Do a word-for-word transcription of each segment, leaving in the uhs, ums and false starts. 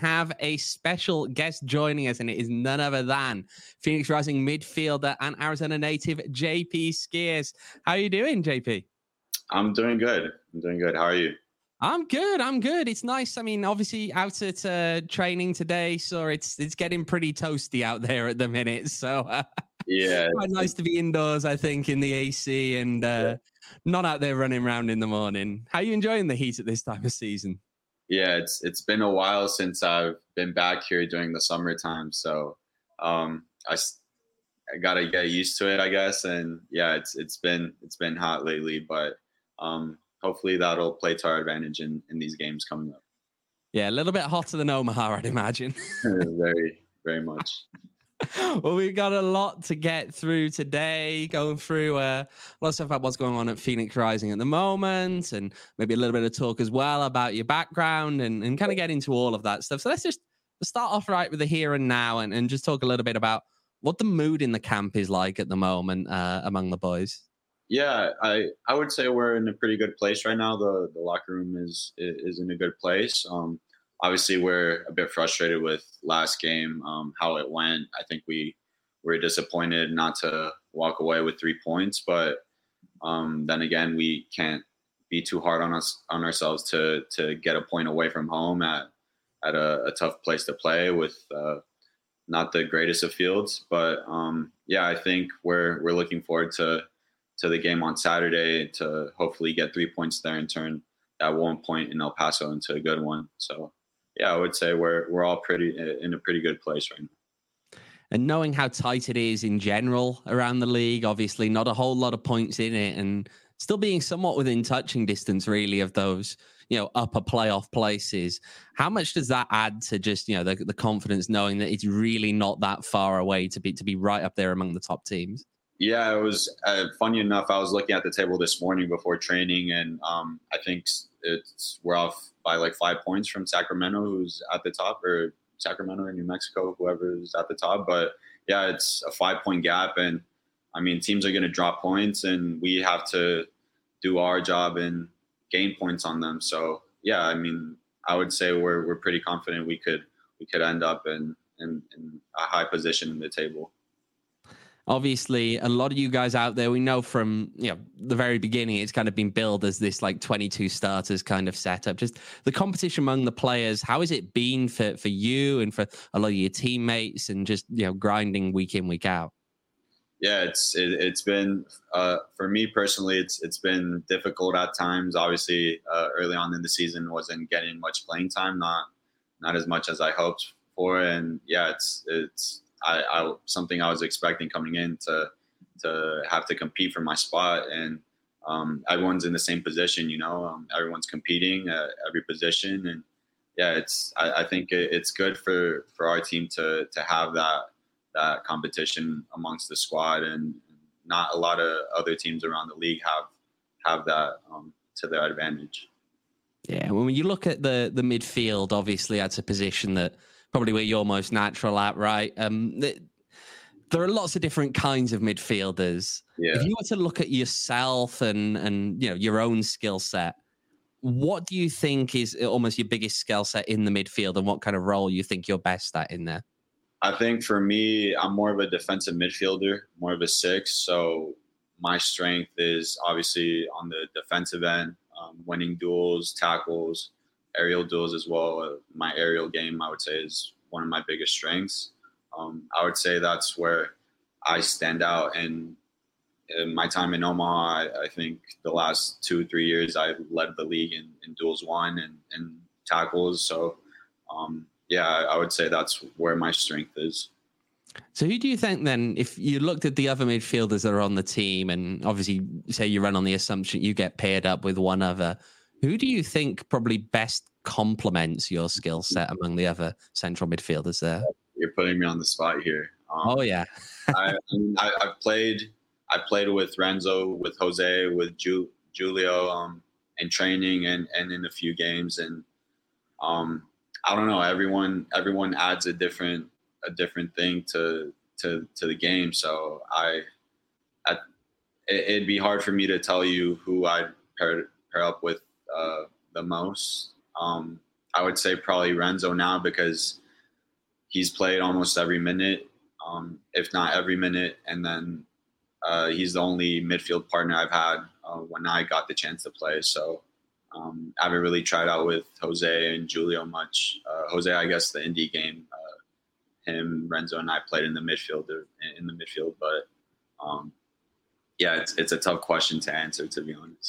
have a special guest joining us, and it is none other than Phoenix Rising midfielder and Arizona native J P Skeers. How are you doing, J P? I'm doing good. I'm doing good. How are you? I'm good. I'm good. It's nice. I mean, obviously out at uh, training today, so it's it's getting pretty toasty out there at the minute. So uh, Yeah, quite nice to be indoors, I think, in the A C and uh, yeah. not out there running around in the morning. How are you enjoying the heat at this time of season? Yeah, it's it's been a while since I've been back here during the summertime, so um, I, I gotta get used to it, I guess. And yeah, it's it's been it's been hot lately, but um, hopefully that'll play to our advantage in, in these games coming up. Yeah, a little bit hotter than Omaha, I'd imagine. very, very much. Well, we've got a lot to get through today, going through uh, a lot of stuff about what's going on at Phoenix Rising at the moment, and maybe a little bit of talk as well about your background and, and kind of get into all of that stuff. So let's just start off right with the here and now and, and just talk a little bit about what the mood in the camp is like at the moment uh, among the boys. Yeah, I, I would say we're in a pretty good place right now. The the locker room is is in a good place. Um, obviously, we're a bit frustrated with last game, um, how it went. I think we were disappointed not to walk away with three points, but um, then again, we can't be too hard on us on ourselves to to get a point away from home at at a, a tough place to play with uh, not the greatest of fields. But um, yeah, I think we're we're looking forward to. to the game on Saturday to hopefully get three points there and turn that one point in El Paso into a good one. So yeah, I would say we're, we're all pretty in a pretty good place right now. And knowing how tight it is in general around the league, obviously not a whole lot of points in it and still being somewhat within touching distance really of those, you know, upper playoff places. How much does that add to just, you know, the, the confidence knowing that it's really not that far away to be, to be right up there among the top teams? Yeah, it was uh, funny enough. I was looking at the table this morning before training, and um, I think it's we're off by like five points from Sacramento, who's at the top, or Sacramento or New Mexico, whoever's at the top. But yeah, it's a five point gap, and I mean teams are going to drop points, and we have to do our job and gain points on them. So yeah, I mean, I would say we're we're pretty confident we could we could end up in in, in a high position in the table. Obviously, a lot of you guys out there, we know from, you know, the very beginning, it's kind of been billed as this like twenty-two starters kind of setup. Just the competition among the players, how has it been for, for you and for a lot of your teammates and just, you know, grinding week in, week out? Yeah, it's it, it's been uh, for me personally, it's it's been difficult at times. Obviously, uh, early on in the season, wasn't getting much playing time, not not as much as I hoped for, and yeah, it's it's. I, I something I was expecting coming in to to have to compete for my spot, and um, everyone's in the same position. You know, um, everyone's competing at every position, and yeah, it's I, I think it, it's good for, for our team to to have that that competition amongst the squad, and not a lot of other teams around the league have have that um, to their advantage. Yeah, when you look at the the midfield, obviously that's a position that. Probably where you're most natural at, right? Um, th- there are lots of different kinds of midfielders. Yeah. If you were to look at yourself and and you know your own skill set, what do you think is almost your biggest skill set in the midfield, and what kind of role you think you're best at in there? I think for me, I'm more of a defensive midfielder, more of a six. So my strength is obviously on the defensive end, um, winning duels, tackles, aerial duels as well. My aerial game, I would say, is one of my biggest strengths. Um, I would say that's where I stand out. And in my time in Omaha, I, I think the last two, three years, I've led the league in, in duels won and, and tackles. So, um, yeah, I would say that's where my strength is. So who do you think then, if you looked at the other midfielders that are on the team, and obviously say you run on the assumption you get paired up with one other, who do you think probably best complements your skill set among the other central midfielders there? You're putting me on the spot here. Um, oh yeah. I, I I've played I played with Renzo, with Jose, with Ju, Julio um, in training and, and in a few games, and um, I don't know. Everyone everyone adds a different a different thing to to to the game. So I, I it, it'd be hard for me to tell you who I'd pair pair up with uh, the most. Um, I would say probably Renzo now because he's played almost every minute, um, if not every minute. And then uh, he's the only midfield partner I've had uh, when I got the chance to play. So um, I haven't really tried out with Jose and Julio much. Uh, Jose, I guess the Indy game, uh, him, Renzo, and I played in the midfield, in the midfield. But um, yeah, it's it's a tough question to answer, to be honest.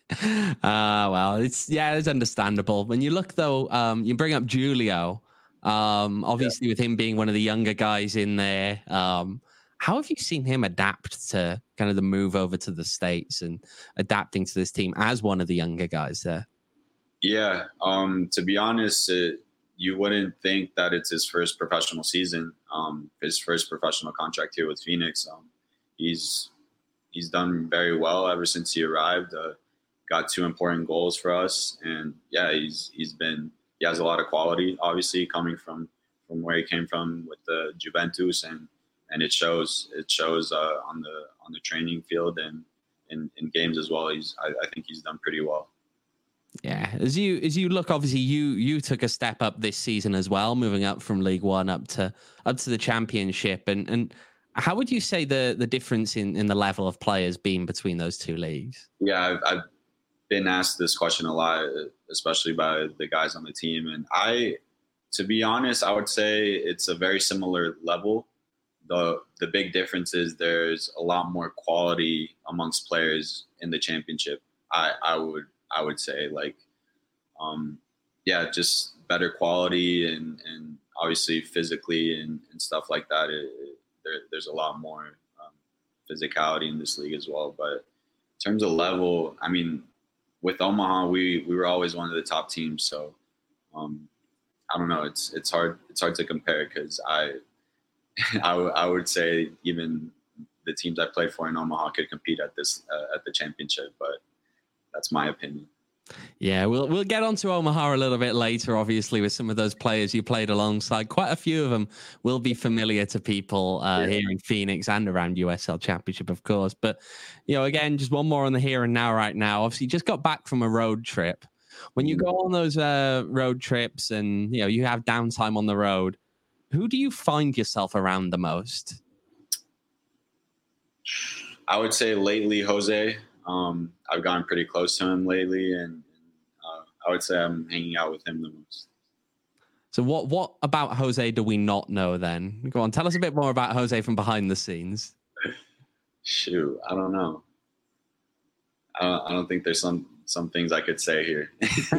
Ah, uh, well, it's yeah, it's understandable. When you look though, um, you bring up Julio. Um, obviously, yeah. with him being one of the younger guys in there, um, how have you seen him adapt to kind of the move over to the States and adapting to this team as one of the younger guys there? Yeah, um, to be honest, it, you wouldn't think that it's his first professional season, um, his first professional contract here with Phoenix. Um, he's he's done very well ever since he arrived. Uh, got two important goals for us, and yeah, he's he's been he has a lot of quality, obviously coming from from where he came from with the Juventus, and and it shows it shows uh, on the on the training field and in, in games as well. He's I, I think he's done pretty well. Yeah, as you as you look, obviously you you took a step up this season as well, moving up from League One up to up to the Championship, and and. How would you say the the difference in, in the level of players been between those two leagues? Yeah, I've, I've been asked this question a lot, especially by the guys on the team. And I, to be honest, I would say it's a very similar level. The the big difference is there's a lot more quality amongst players in the championship. I, I would I would say like, um, yeah, just better quality and, and obviously physically and, and stuff like that. It, There, there's a lot more um, physicality in this league as well. But in terms of level, I mean, with Omaha, we, we were always one of the top teams. So um, I don't know. It's it's hard it's hard to compare because I, I, w- I would say even the teams I played for in Omaha could compete at this uh, at the championship. But that's my opinion. Yeah, we'll we'll get on to Omaha a little bit later, obviously, with some of those players you played alongside. Quite a few of them will be familiar to people uh, yeah. here in Phoenix and around U S L Championship, of course. But, you know, again, just one more on the here and now right now. Obviously, you just got back from a road trip. When you go on those uh, road trips and, you know, you have downtime on the road, who do you find yourself around the most? I would say lately, Jose. Um, I've gotten pretty close to him lately, and uh, I would say I'm hanging out with him the most. So what what about Jose do we not know then? Go on, tell us a bit more about Jose from behind the scenes. Shoot, I don't know. I don't, I don't think there's some, some things I could say here.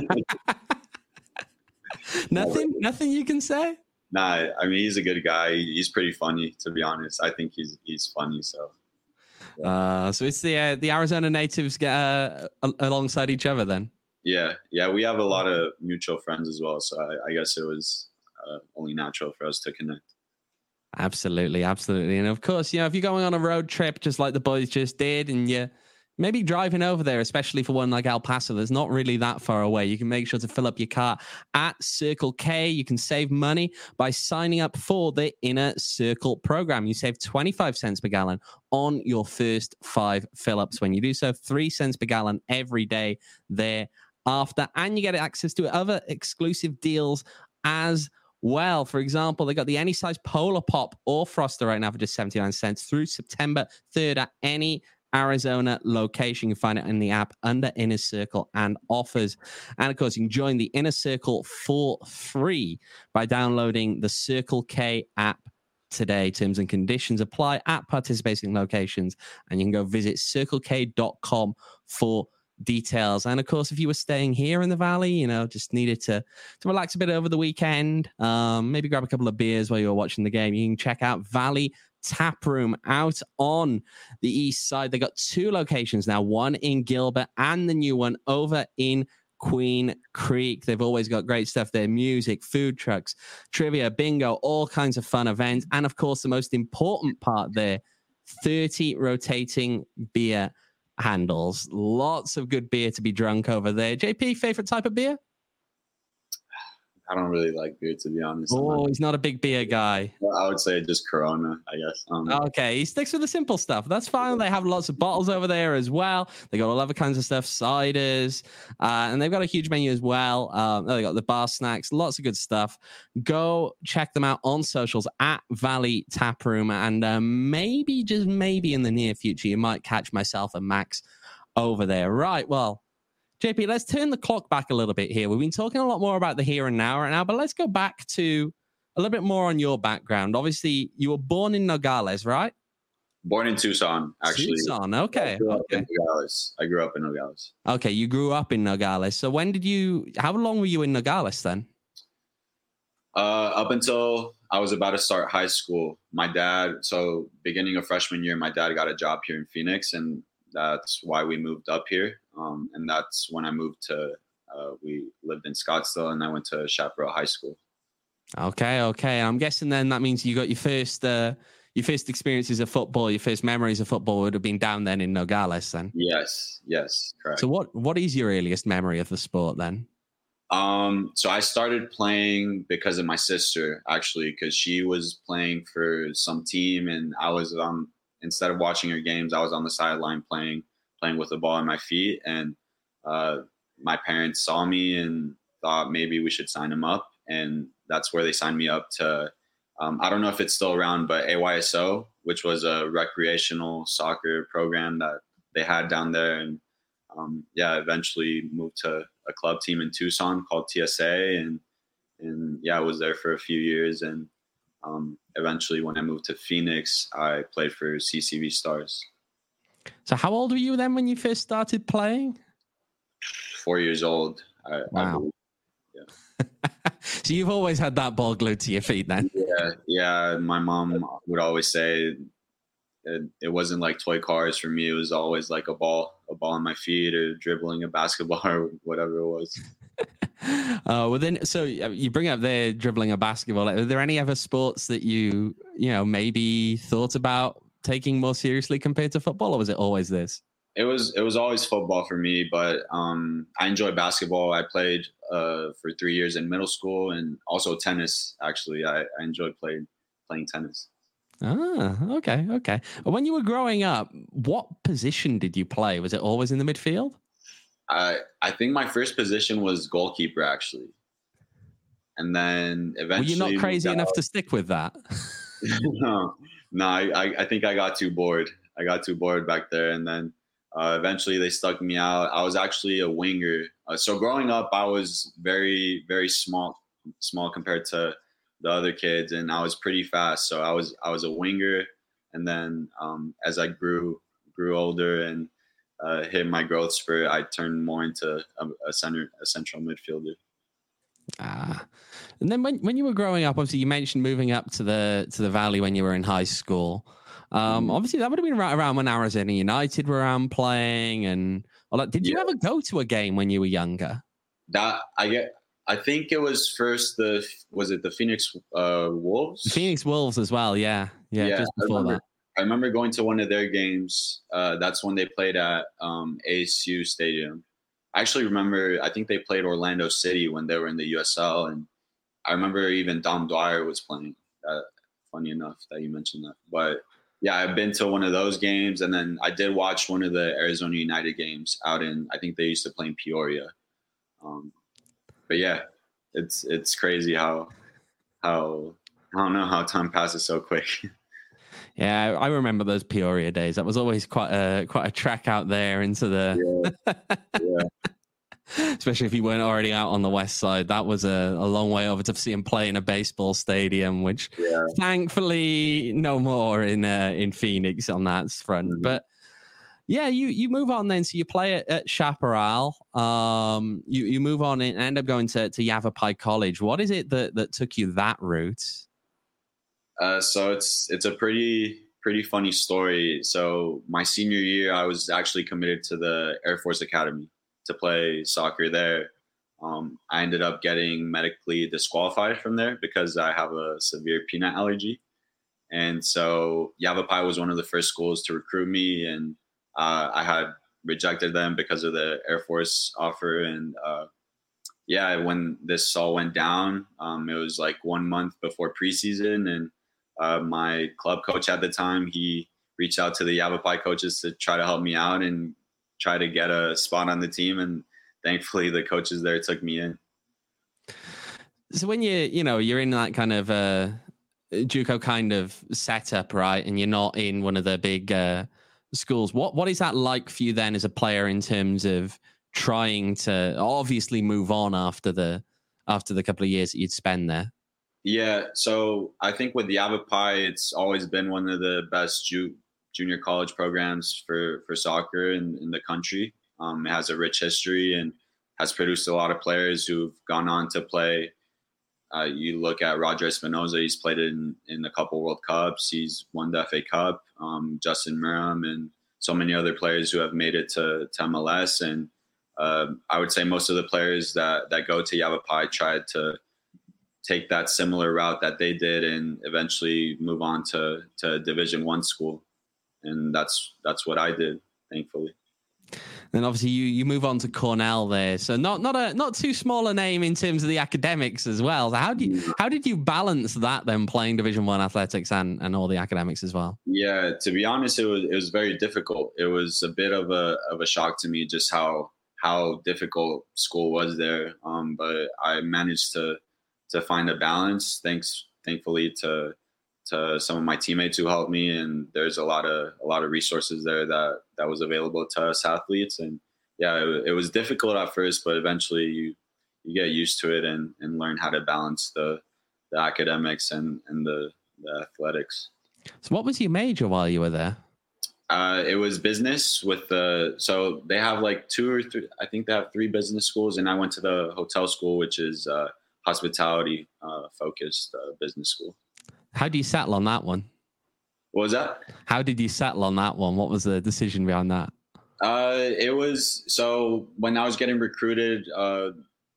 nothing, nothing you can say? Nah, I mean, he's a good guy. He's pretty funny, to be honest. I think he's he's funny, so. Uh, so it's the uh, the Arizona natives get uh, alongside each other then. Yeah, yeah, we have a lot of mutual friends as well, so I, I guess it was uh, only natural for us to connect. Absolutely, absolutely, and of course, you know, if you're going on a road trip just like the boys just did, and you maybe driving over there, especially for one like El Paso, that's not really that far away. You can make sure to fill up your car at Circle K. You can save money by signing up for the Inner Circle program. You save twenty-five cents per gallon on your first five fill-ups when you do so. Three cents per gallon every day thereafter. And you get access to other exclusive deals as well. For example, they got the any size Polar Pop or Froster right now for just seventy-nine cents through September third at any Arizona location. You can find it in the app under Inner Circle and offers. And of course, you can join the Inner Circle for free by downloading the Circle K app today. Terms and conditions apply at participating locations, and you can go visit circle k dot com for details. And of course, if you were staying here in the Valley, you know, just needed to to relax a bit over the weekend, um, maybe grab a couple of beers while you were watching the game, you can check out Valley Tap Room out on the east side. They got two locations now, one in Gilbert and the new one over in Queen Creek. They've always got great stuff there: music, food trucks, trivia, bingo, all kinds of fun events, and of course the most important part there, thirty rotating beer handles. Lots of good beer to be drunk over there. J P, favorite type of beer? I don't really like beer, to be honest. Oh, he's not a big beer guy. Well, I would say just Corona, I guess. Um, Okay, he sticks with the simple stuff. That's fine. They have lots of bottles over there as well. They got all other kinds of stuff, ciders, uh, and they've got a huge menu as well. Um, they got the bar snacks, lots of good stuff. Go check them out on socials at Valley Tap Room, and uh, maybe, just maybe in the near future, you might catch myself and Max over there. Right, well, J P, let's turn the clock back a little bit here. We've been talking a lot more about the here and now right now, but let's go back to a little bit more on your background. Obviously, you were born in Nogales, right? Born in Tucson, actually. Tucson, okay. I grew up okay. in Nogales. I grew up in Nogales. Okay, you grew up in Nogales. So when did you, how long were you in Nogales then? Uh, up until I was about to start high school. My dad, so beginning of freshman year, my dad got a job here in Phoenix, and that's why we moved up here. Um, and that's when I moved to, uh, we lived in Scottsdale, and I went to Chaparral High School. Okay, okay. I'm guessing then that means you got your first, uh, your first experiences of football, your first memories of football would have been down then in Nogales then. Yes, yes, correct. So what, what is your earliest memory of the sport then? Um, so I started playing because of my sister, actually, because she was playing for some team, and I was on, instead of watching her games, I was on the sideline playing, playing with the ball in my feet. And uh, my parents saw me and thought maybe we should sign him up. And that's where they signed me up to, um, I don't know if it's still around, but A Y S O, which was a recreational soccer program that they had down there. And um, yeah, eventually moved to a club team in Tucson called T S A. And, and yeah, I was there for a few years. And um, eventually when I moved to Phoenix, I played for C C V Stars. So how old were you then when you first started playing? Four years old. I, wow. I So you've always had that ball glued to your feet then? Yeah, yeah. My mom would always say it, it wasn't like toy cars for me. It was always like a ball, a ball on my feet, or dribbling a basketball, or whatever it was. uh, well, then, so you bring up there dribbling a basketball. Are there any other sports that you, you know, maybe thought about taking more seriously compared to football, or was it always this? It was it was always football for me, but um, I enjoy basketball. I played uh, for three years in middle school, and also tennis. Actually, I, I enjoyed playing playing tennis. Ah, okay, okay. When you were growing up, what position did you play? Was it always in the midfield? I I think my first position was goalkeeper, actually, and then eventually. Were you not crazy enough to stick with that? no, no. I I think I got too bored. I got too bored back there, and then. Uh, eventually, they stuck me out. I was actually a winger. Uh, so growing up, I was very, very small, small compared to the other kids, and I was pretty fast. So I was, I was a winger. And then um, as I grew, grew older and uh, hit my growth spurt, I turned more into a, a center, a central midfielder. Ah, and then when when you were growing up, obviously you mentioned moving up to the to the Valley when you were in high school. Um, obviously, that would have been right around when Arizona United were around playing, and all that. Did you yeah. ever go to a game when you were younger? That I get. I think it was first the was it the Phoenix uh, Wolves? The Phoenix Wolves as well. Yeah, yeah. yeah just before I remember, that, I remember going to one of their games. Uh, that's when they played at um, A S U Stadium. I actually remember. I think they played Orlando City when they were in the U S L, and I remember even Dom Dwyer was playing. Uh, funny enough that you mentioned that, but. Yeah, I've been to one of those games, and then I did watch one of the Arizona United games out in. I think they used to play in Peoria. Um, but yeah, it's it's crazy how how I don't know how time passes so quick. Yeah, I remember those Peoria days. That was always quite a quite a trek out there into the. Yeah. yeah. Especially if you weren't already out on the west side. That was a, a long way over to see him play in a baseball stadium, which yeah. thankfully no more in uh, in Phoenix on that front. Mm-hmm. But yeah, you you move on then. So you play at, at Chaparral. Um, you you move on and end up going to, to Yavapai College. What is it that, that took you that route? Uh, so it's it's a pretty pretty funny story. So my senior year, I was actually committed to the Air Force Academy to play soccer there. Um, I ended up getting medically disqualified from there because I have a severe peanut allergy. And so Yavapai was one of the first schools to recruit me, and uh, I had rejected them because of the Air Force offer. And uh, yeah, when this all went down, um, it was like one month before preseason, and uh, my club coach at the time, he reached out to the Yavapai coaches to try to help me out and try to get a spot on the team. And thankfully, the coaches there took me in. So when you, you know, you're in that kind of uh, JUCO kind of setup, right, and you're not in one of the big uh, schools, what what is that like for you then as a player in terms of trying to obviously move on after the after the couple of years that you'd spend there? Yeah, so I think with Yavapai, it's always been one of the best ju- junior college programs for for soccer in, in the country. Um, it has a rich history and has produced a lot of players who've gone on to play. Uh, you look at Roger Espinoza, he's played in, in a couple World Cups. He's won the F A Cup. Um, Justin Miram and so many other players who have made it to, to M L S. And uh, I would say most of the players that, that go to Yavapai tried to take that similar route that they did and eventually move on to, to Division One school. And that's that's what I did, thankfully. Then obviously you you move on to Cornell there, so not not a not too small a name in terms of the academics as well. So how do you how did you balance that then, playing Division One athletics and and all the academics as well? Yeah, to be honest, it was it was very difficult. It was a bit of a of a shock to me just how how difficult school was there. Um, but I managed to to find a balance. Thanks, thankfully to to some of my teammates who helped me, and there's a lot of a lot of resources there that that was available to us athletes. And yeah, it, it was difficult at first, but eventually you you get used to it and and learn how to balance the the academics and and the, the athletics. So what was your major while you were there? Uh, it was business with the, so they have like two or three, I think they have three business schools, and I went to the hotel school, which is uh, hospitality uh, focused uh, business school. How do you settle on that one? What was that? How did you settle on that one? What was the decision behind that? Uh, it was, so when I was getting recruited uh,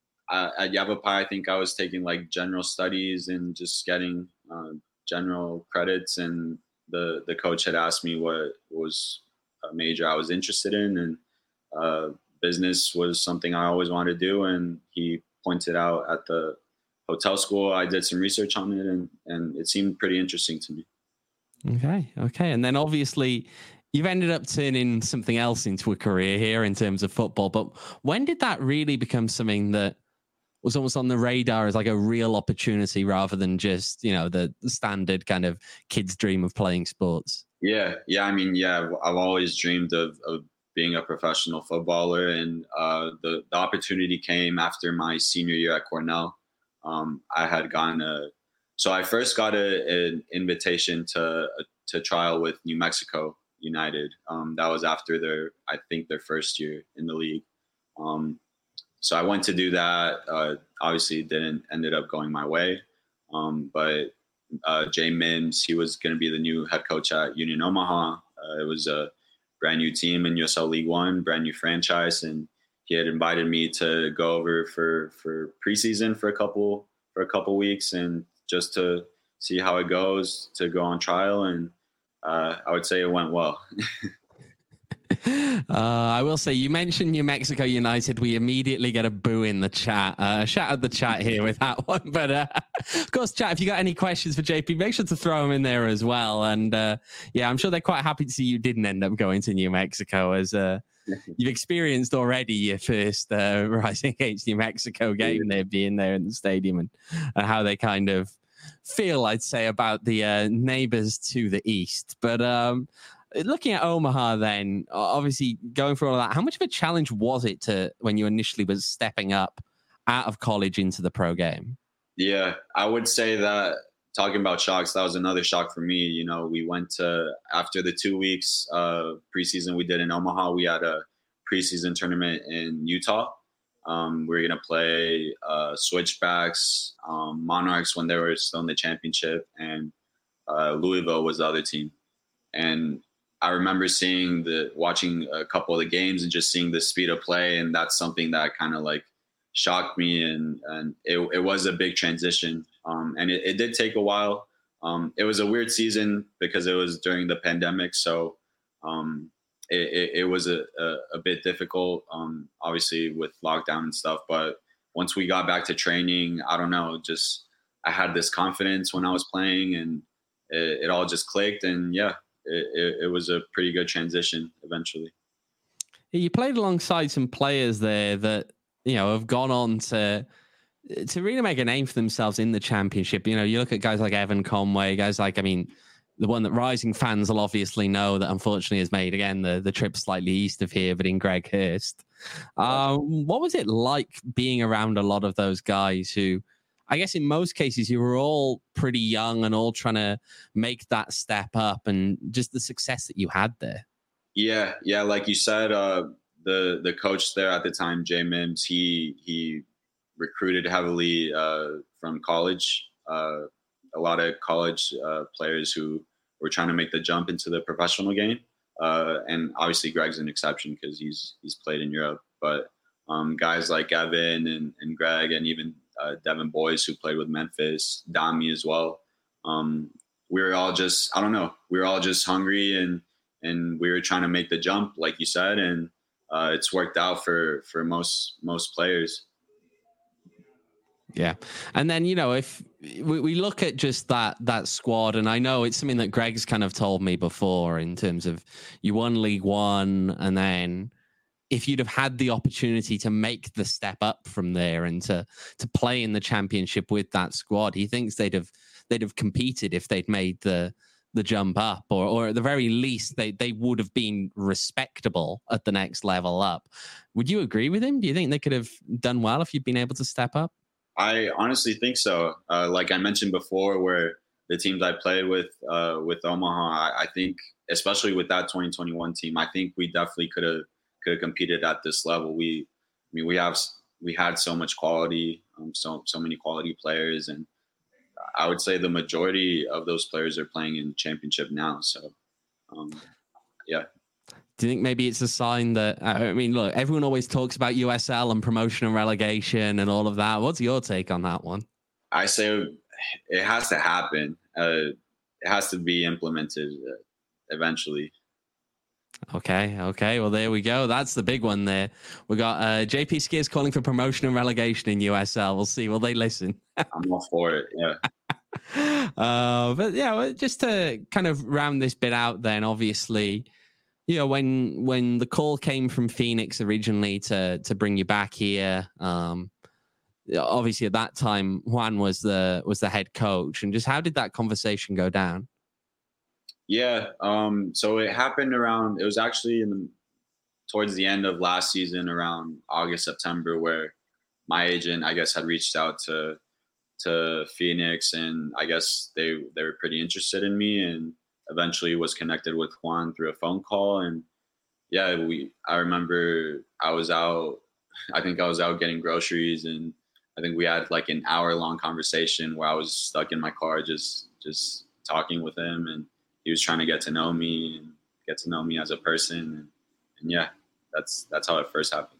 at Yavapai, I think I was taking like general studies and just getting uh, general credits. And the, the coach had asked me what was a major I was interested in. And uh, business was something I always wanted to do. And he pointed out at the hotel school. I did some research on it, and, and it seemed pretty interesting to me. Okay. Okay. And then obviously you've ended up turning something else into a career here in terms of football. But when did that really become something that was almost on the radar as like a real opportunity rather than just, you know, the, the standard kind of kid's dream of playing sports? Yeah. Yeah. I mean, yeah, I've always dreamed of, of being a professional footballer. And uh, the, the opportunity came after my senior year at Cornell. Um, I had gotten a, so I first got a, an invitation to to trial with New Mexico United. Um, that was after their, I think their first year in the league. Um, so I went to do that. Uh, obviously, didn't ended up going my way. Um, but uh, Jay Mims, he was going to be the new head coach at Union Omaha. Uh, it was a brand new team in U S L League One, brand new franchise, and he had invited me to go over for, for preseason for a couple for a couple weeks and just to see how it goes, to go on trial. And uh, I would say it went well. uh, I will say, you mentioned New Mexico United. We immediately get a boo in the chat. Uh, shout out the chat here with that one. But uh, of course, chat, if you got any questions for J P, make sure to throw them in there as well. And uh, yeah, I'm sure they're quite happy to see you didn't end up going to New Mexico, as uh, you've experienced already your first uh, Rising Against New Mexico game there, being there in the stadium, and uh, how they kind of feel, I'd say, about the uh, neighbors to the east. But um, looking at Omaha then, obviously going through all that, how much of a challenge was it to when you initially was stepping up out of college into the pro game? Yeah, I would say that, talking about shocks, that was another shock for me. You know, we went to, after the two weeks uh, preseason we did in Omaha, we had a preseason tournament in Utah. Um, we were going to play uh, Switchbacks, um, Monarchs when they were still in the championship, and uh, Louisville was the other team. And I remember seeing the, watching a couple of the games and just seeing the speed of play. And that's something that kind of like shocked me. And, and it, it was a big transition. Um, and it, it did take a while. Um, it was a weird season because it was during the pandemic. So um, it, it, it was a, a, a bit difficult, um, obviously with lockdown and stuff, but once we got back to training, I don't know, just I had this confidence when I was playing, and it, it all just clicked. And yeah, it, it, it was a pretty good transition eventually. You played alongside some players there that, you know, have gone on to to really make a name for themselves in the championship. You know, you look at guys like Evan Conway, guys like, I mean, the one that Rising fans will obviously know that unfortunately has made, again, the, the trip slightly east of here, but in Greg Hurst. Um, what was it like being around a lot of those guys who, I guess in most cases, you were all pretty young and all trying to make that step up, and just the success that you had there? Yeah, yeah, like you said, uh, the the coach there at the time, Jay Mims, he he recruited heavily uh, from college. Uh, a lot of college uh, players who were trying to make the jump into the professional game, uh, and obviously Greg's an exception because he's he's played in Europe. But um, guys like Evan and, and Greg, and even uh, Devin Boyce, who played with Memphis, Dami as well. Um, we were all just, I don't know, we were all just hungry, and and we were trying to make the jump, like you said, and uh, it's worked out for for most most players. Yeah. And then, you know, if we, we look at just that that squad, and I know it's something that Greg's kind of told me before in terms of you won League One, and then if you'd have had the opportunity to make the step up from there and to to play in the championship with that squad, he thinks they'd have they'd have competed if they'd made the the jump up, or or at the very least they they would have been respectable at the next level up. Would you agree with him? Do you think they could have done well if you'd been able to step up? I honestly think so. Uh, like I mentioned before, where the teams I played with uh, with Omaha, I, I think, especially with that twenty twenty-one team, I think we definitely could have could have competed at this level. We, I mean, we have we had so much quality, um, so so many quality players, and I would say the majority of those players are playing in the championship now. So, um, yeah. Do you think maybe it's a sign that, I mean, look, everyone always talks about U S L and promotion and relegation and all of that. What's your take on that one? I say it has to happen. Uh, it has to be implemented uh, eventually. Okay, okay. Well, there we go. That's the big one there. We got uh, J P Skiers calling for promotion and relegation in U S L. We'll see. Will they listen? I'm all for it, yeah. uh, but yeah, just to kind of round this bit out then, obviously, you know, when when the call came from Phoenix originally to to bring you back here, um, obviously at that time Juan was the was the head coach, and just how did that conversation go down? Yeah, um, so it happened around. It was actually in the, towards the end of last season, around August, September, where my agent, I guess, had reached out to to Phoenix, and I guess they they were pretty interested in me, and eventually was connected with Juan through a phone call. And yeah, we, I remember I was out, I think I was out getting groceries, and I think we had like an hour long conversation where I was stuck in my car, just, just talking with him. And he was trying to get to know me and get to know me as a person. And, and yeah, that's, that's how it first happened.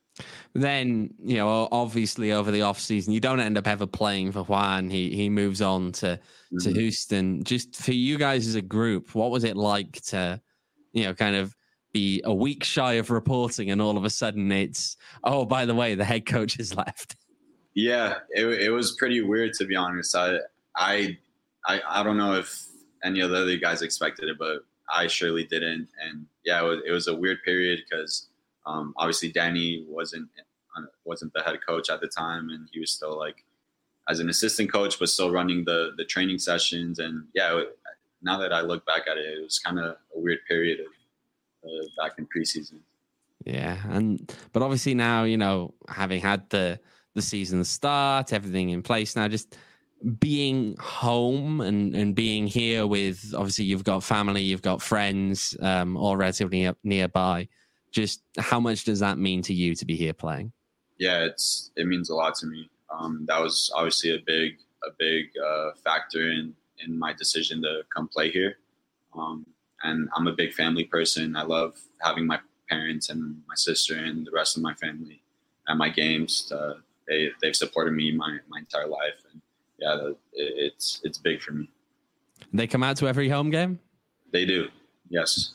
Then, you know, obviously over the off season, you don't end up ever playing for Juan. He he moves on to mm-hmm. to Houston. Just for you guys as a group, what was it like to, you know, kind of be a week shy of reporting, and all of a sudden it's, oh, by the way, the head coach has left? Yeah, it it was pretty weird, to be honest. I I I, I don't know if any of the other guys expected it, but I surely didn't. And yeah, it was, it was a weird period because um, obviously Danny wasn't wasn't the head coach at the time, and he was still like as an assistant coach, but still running the the training sessions. And yeah, it, now that I look back at it, it was kind of a weird period of uh, back in preseason. Yeah, and but obviously now, you know, having had the the season start, everything in place now, just being home and and being here with, obviously you've got family, you've got friends, um, all relatively near, nearby. Just how much does that mean to you to be here playing? Yeah, it's it means a lot to me. Um, that was obviously a big a big uh, factor in in my decision to come play here. Um, and I'm a big family person. I love having my parents and my sister and the rest of my family at my games. Uh, they they've supported me my, my entire life, and yeah, it, it's it's big for me. They come out to every home game? They do, yes.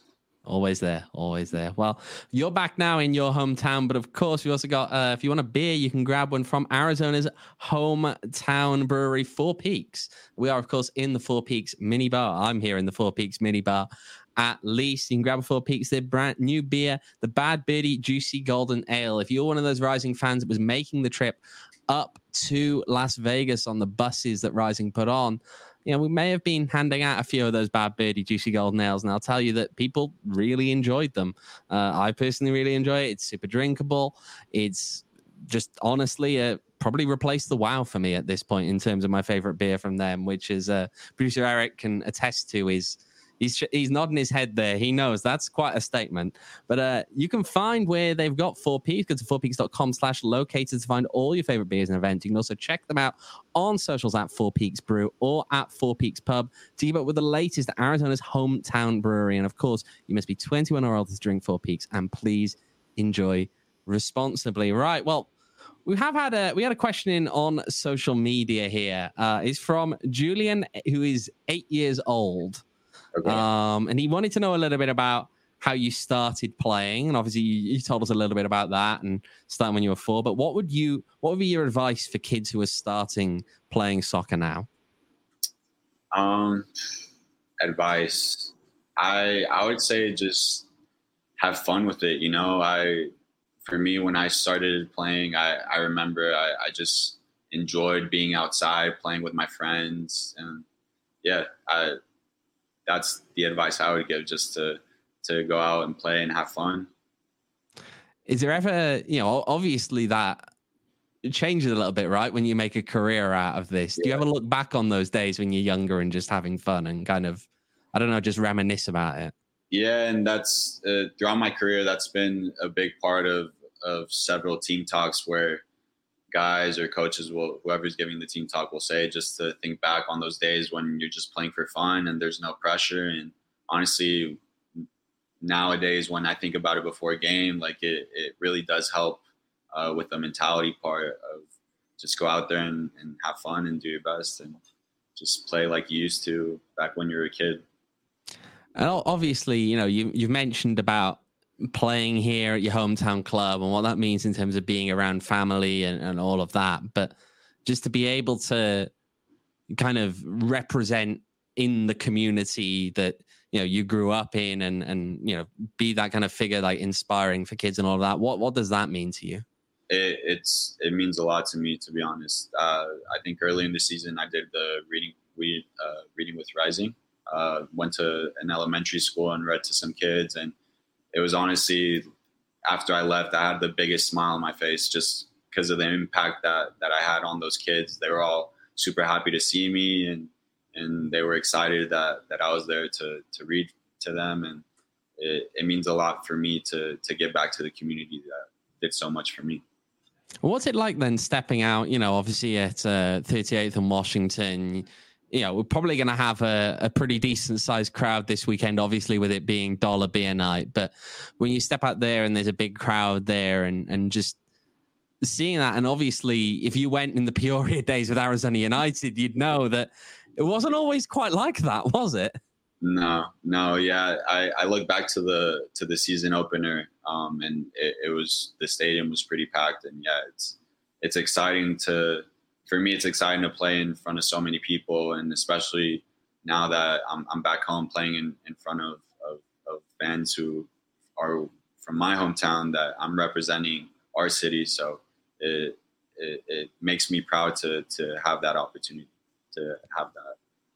Always there, always there. Well, you're back now in your hometown, but of course, we also got, uh, if you want a beer, you can grab one from Arizona's hometown brewery, Four Peaks. We are, of course, in the Four Peaks mini bar. I'm here in the Four Peaks mini bar. At least you can grab a Four Peaks, their brand new beer, the Bad Birdie Juicy Golden Ale. If you're one of those Rising fans that was making the trip up to Las Vegas on the buses that Rising put on, you know, we may have been handing out a few of those Bad Birdie Juicy Golden Ales, and I'll tell you that people really enjoyed them. Uh, I personally really enjoy it. It's super drinkable. It's just honestly uh, probably replaced the WoW for me at this point in terms of my favorite beer from them, which is uh, producer Eric can attest to is He's, he's nodding his head there. He knows that's quite a statement. But uh, you can find where they've got Four Peaks. Go to four peaks dot com slash located to find all your favorite beers and events. You can also check them out on socials at Four Peaks Brew or at Four Peaks Pub to keep up with the latest at Arizona's hometown brewery. And of course, you must be twenty-one or older to drink Four Peaks. And please enjoy responsibly. Right. Well, we have had a we had a question in on social media here. Uh, it's from Julian, who is eight years old. Okay. Um, and he wanted to know a little bit about how you started playing, and obviously you, you told us a little bit about that and starting when you were four. But what would you, what would be your advice for kids who are starting playing soccer now? Um, advice, I I would say just have fun with it. You know, I for me when I started playing, I I remember I, I just enjoyed being outside playing with my friends, and yeah, I. That's the advice I would give, just to to go out and play and have fun. Is there ever, you know, obviously that changes a little bit, right? When you make a career out of this, yeah. Do you ever look back on those days when you're younger and just having fun and kind of, I don't know, just reminisce about it? Yeah, and that's uh, throughout my career, that's been a big part of of several team talks where guys or coaches will, whoever's giving the team talk will say, just to think back on those days when you're just playing for fun and there's no pressure. And honestly, nowadays, when I think about it before a game, like it, it really does help uh, with the mentality part of just go out there and, and have fun and do your best and just play like you used to back when you were a kid. And obviously, you know, you, you've mentioned about playing here at your hometown club and what that means in terms of being around family and, and all of that. But just to be able to kind of represent in the community that, you know, you grew up in and, and, you know, be that kind of figure, like inspiring for kids and all of that. What, what does that mean to you? It, it's, it means a lot to me, to be honest. Uh, I think early in the season, I did the reading, we, uh, reading with Rising, uh, went to an elementary school and read to some kids, and it was honestly, after I left, I had the biggest smile on my face just because of the impact that, that I had on those kids. They were all super happy to see me, and and they were excited that, that I was there to to read to them. And it, it means a lot for me to to give back to the community that did so much for me. What's it like then stepping out, you know, obviously at uh, thirty-eighth and Washington? You know, we're probably going to have a, a pretty decent sized crowd this weekend, obviously with it being dollar beer night. But when you step out there and there's a big crowd there and, and just seeing that, and obviously if you went in the Peoria days with Arizona United, you'd know that it wasn't always quite like that, was it? No, no. Yeah. I, I look back to the, to the season opener um, and it, it was, the stadium was pretty packed, and yeah, it's, it's exciting to, for me, it's exciting to play in front of so many people, and especially now that I'm, I'm back home playing in, in front of, of, of fans who are from my hometown, that I'm representing our city. So it, it, it makes me proud to, to have that opportunity, to have that.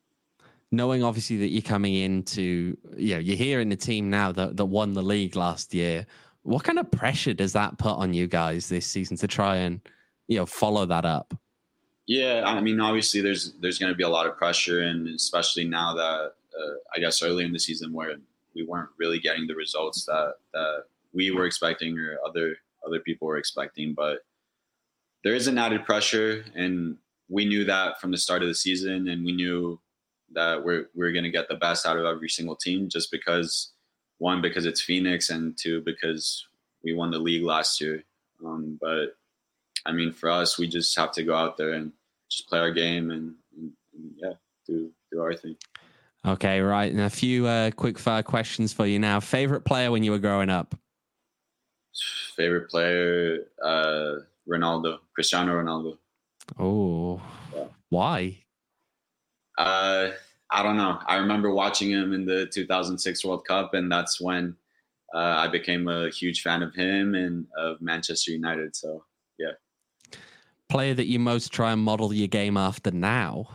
Knowing obviously that you're coming into, you know, you're here in the team now that, that won the league last year. What kind of pressure does that put on you guys this season to try and, you know, follow that up? Yeah, I mean, obviously there's there's going to be a lot of pressure, and especially now that uh, I guess early in the season where we weren't really getting the results that that we were expecting or other other people were expecting. But there is an added pressure, and we knew that from the start of the season, and we knew that we're we're going to get the best out of every single team, just because, one, because it's Phoenix, and two, because we won the league last year. Um, but I mean, for us, we just have to go out there and just play our game and, and, and yeah, do do our thing. Okay, right. And a few uh, quick fire questions for you now. Favorite player when you were growing up? Favorite player, uh, Ronaldo, Cristiano Ronaldo. Oh, yeah. Why? Uh, I don't know. I remember watching him in the two thousand six World Cup, and that's when uh, I became a huge fan of him and of Manchester United. So, yeah. Player that you most try and model your game after now?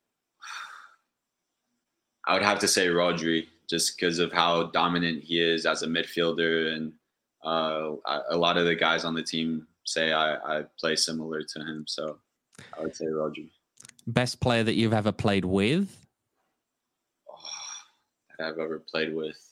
I would have to say Rodri, just because of how dominant he is as a midfielder, and uh, a lot of the guys on the team say I, I play similar to him. So I would say Rodri. Best player that you've ever played with? Oh, that I've ever played with.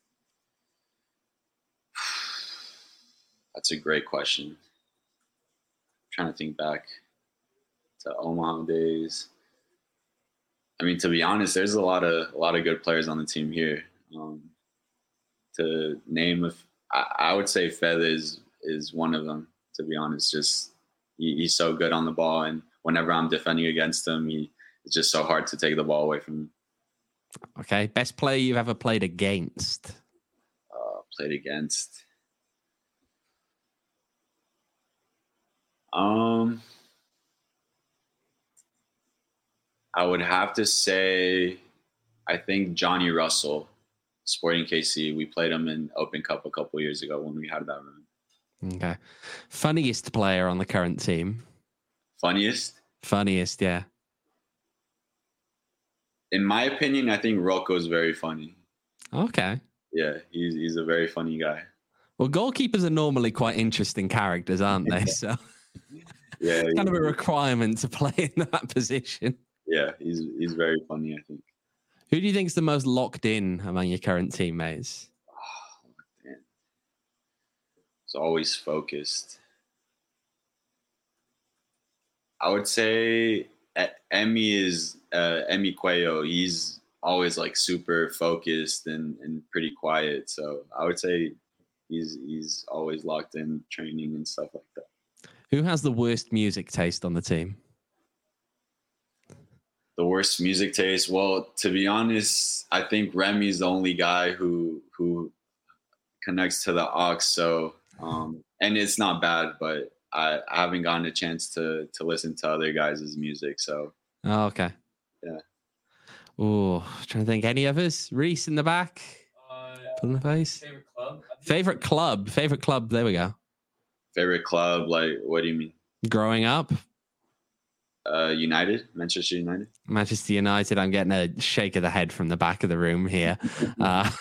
That's a great question. I'm trying to think back to Omaha days. I mean, to be honest, there's a lot of a lot of good players on the team here. Um, to name, if I, I would say Fed is is one of them. To be honest, just he, he's so good on the ball, and whenever I'm defending against him, he it's just so hard to take the ball away from him. Okay, best player you've ever played against? Uh, played against. Um, I would have to say, I think Johnny Russell, Sporting K C. We played him in Open Cup a couple years ago when we had that run. Okay. Funniest player on the current team? Funniest? Funniest, yeah. In my opinion, I think Rocco's very funny. Okay. Yeah, he's he's a very funny guy. Well, goalkeepers are normally quite interesting characters, aren't they? So yeah, it's kind of a requirement to play in that position. Yeah, he's he's very funny, I think. Who do you think is the most locked in among your current teammates? Oh, man. He's always focused. I would say Emmy is uh, Emmy Cuello. He's always like super focused and, and pretty quiet. So I would say he's he's always locked in training and stuff like that. Who has the worst music taste on the team? The worst music taste? Well, to be honest, I think Remy's the only guy who who connects to the aux. So um, and it's not bad, but I, I haven't gotten a chance to to listen to other guys' music. So oh, okay. Yeah. Oh, trying to think. Any others? Reese in the back. Uh, in the face. Favorite club. Favorite club. Favorite club. There we go. Favorite club? Like, what do you mean? Growing up. Uh, United, Manchester United. Manchester United. I'm getting a shake of the head from the back of the room here. uh,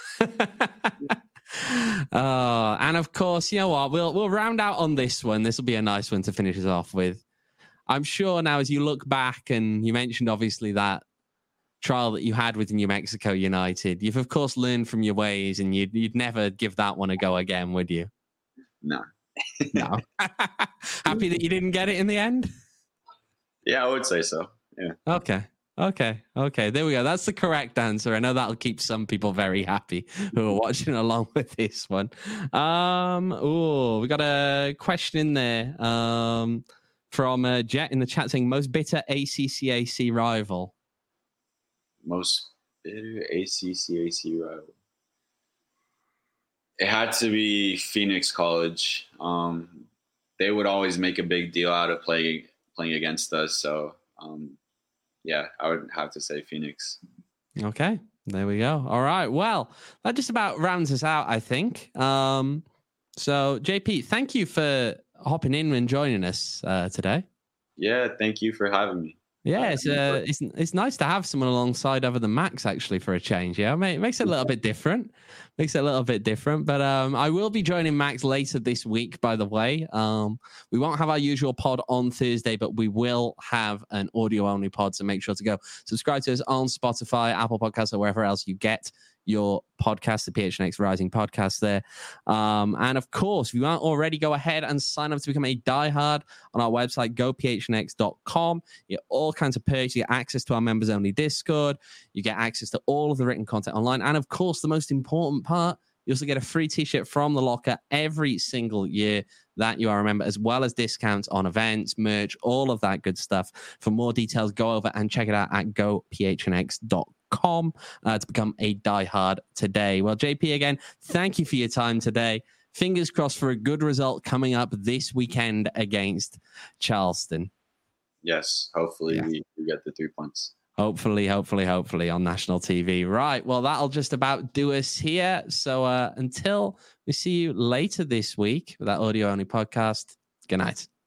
uh, and of course, you know what? We'll we'll round out on this one. This will be a nice one to finish us off with. I'm sure now, as you look back, and you mentioned obviously that trial that you had with New Mexico United, you've of course learned from your ways, and you'd you'd never give that one a go again, would you? No. No. Happy that you didn't get it in the end? Yeah, I would say so. Yeah. Okay. Okay. Okay. There we go. That's the correct answer. I know that'll keep some people very happy who are watching along with this one. Um, oh, we got a question in there um, from uh, Jet in the chat saying most bitter A C C A C rival. Most bitter A C C A C rival. It had to be Phoenix College. Um, they would always make a big deal out of playing playing against us. So, um, yeah, I would have to say Phoenix. Okay, there we go. All right. Well, that just about rounds us out, I think. Um, so, J P, thank you for hopping in and joining us uh, today. Yeah, thank you for having me. Yeah, it's, uh, it's it's nice to have someone alongside other than Max, actually, for a change. Yeah, it makes it a little bit different. Makes it a little bit different. But um, I will be joining Max later this week, by the way. Um, we won't have our usual pod on Thursday, but we will have an audio-only pod, so make sure to go subscribe to us on Spotify, Apple Podcasts, or wherever else you get your podcast, the P H N X Rising podcast there. Um, and of course, if you aren't already, go ahead and sign up to become a diehard on our website, go P H N X dot com. You get all kinds of perks. You get access to our members only Discord. You get access to all of the written content online. And of course, the most important part, you also get a free t-shirt from The Locker every single year that you are a member, as well as discounts on events, merch, all of that good stuff. For more details, go over and check it out at go P H N X dot com uh, to become a diehard today. Well, J P, again, thank you for your time today. Fingers crossed for a good result coming up this weekend against Charleston. Yes, hopefully yeah. we, we get the three points. Hopefully, hopefully, hopefully on national T V. Right. Well, that'll just about do us here. So uh, until we see you later this week with that audio-only podcast, good night.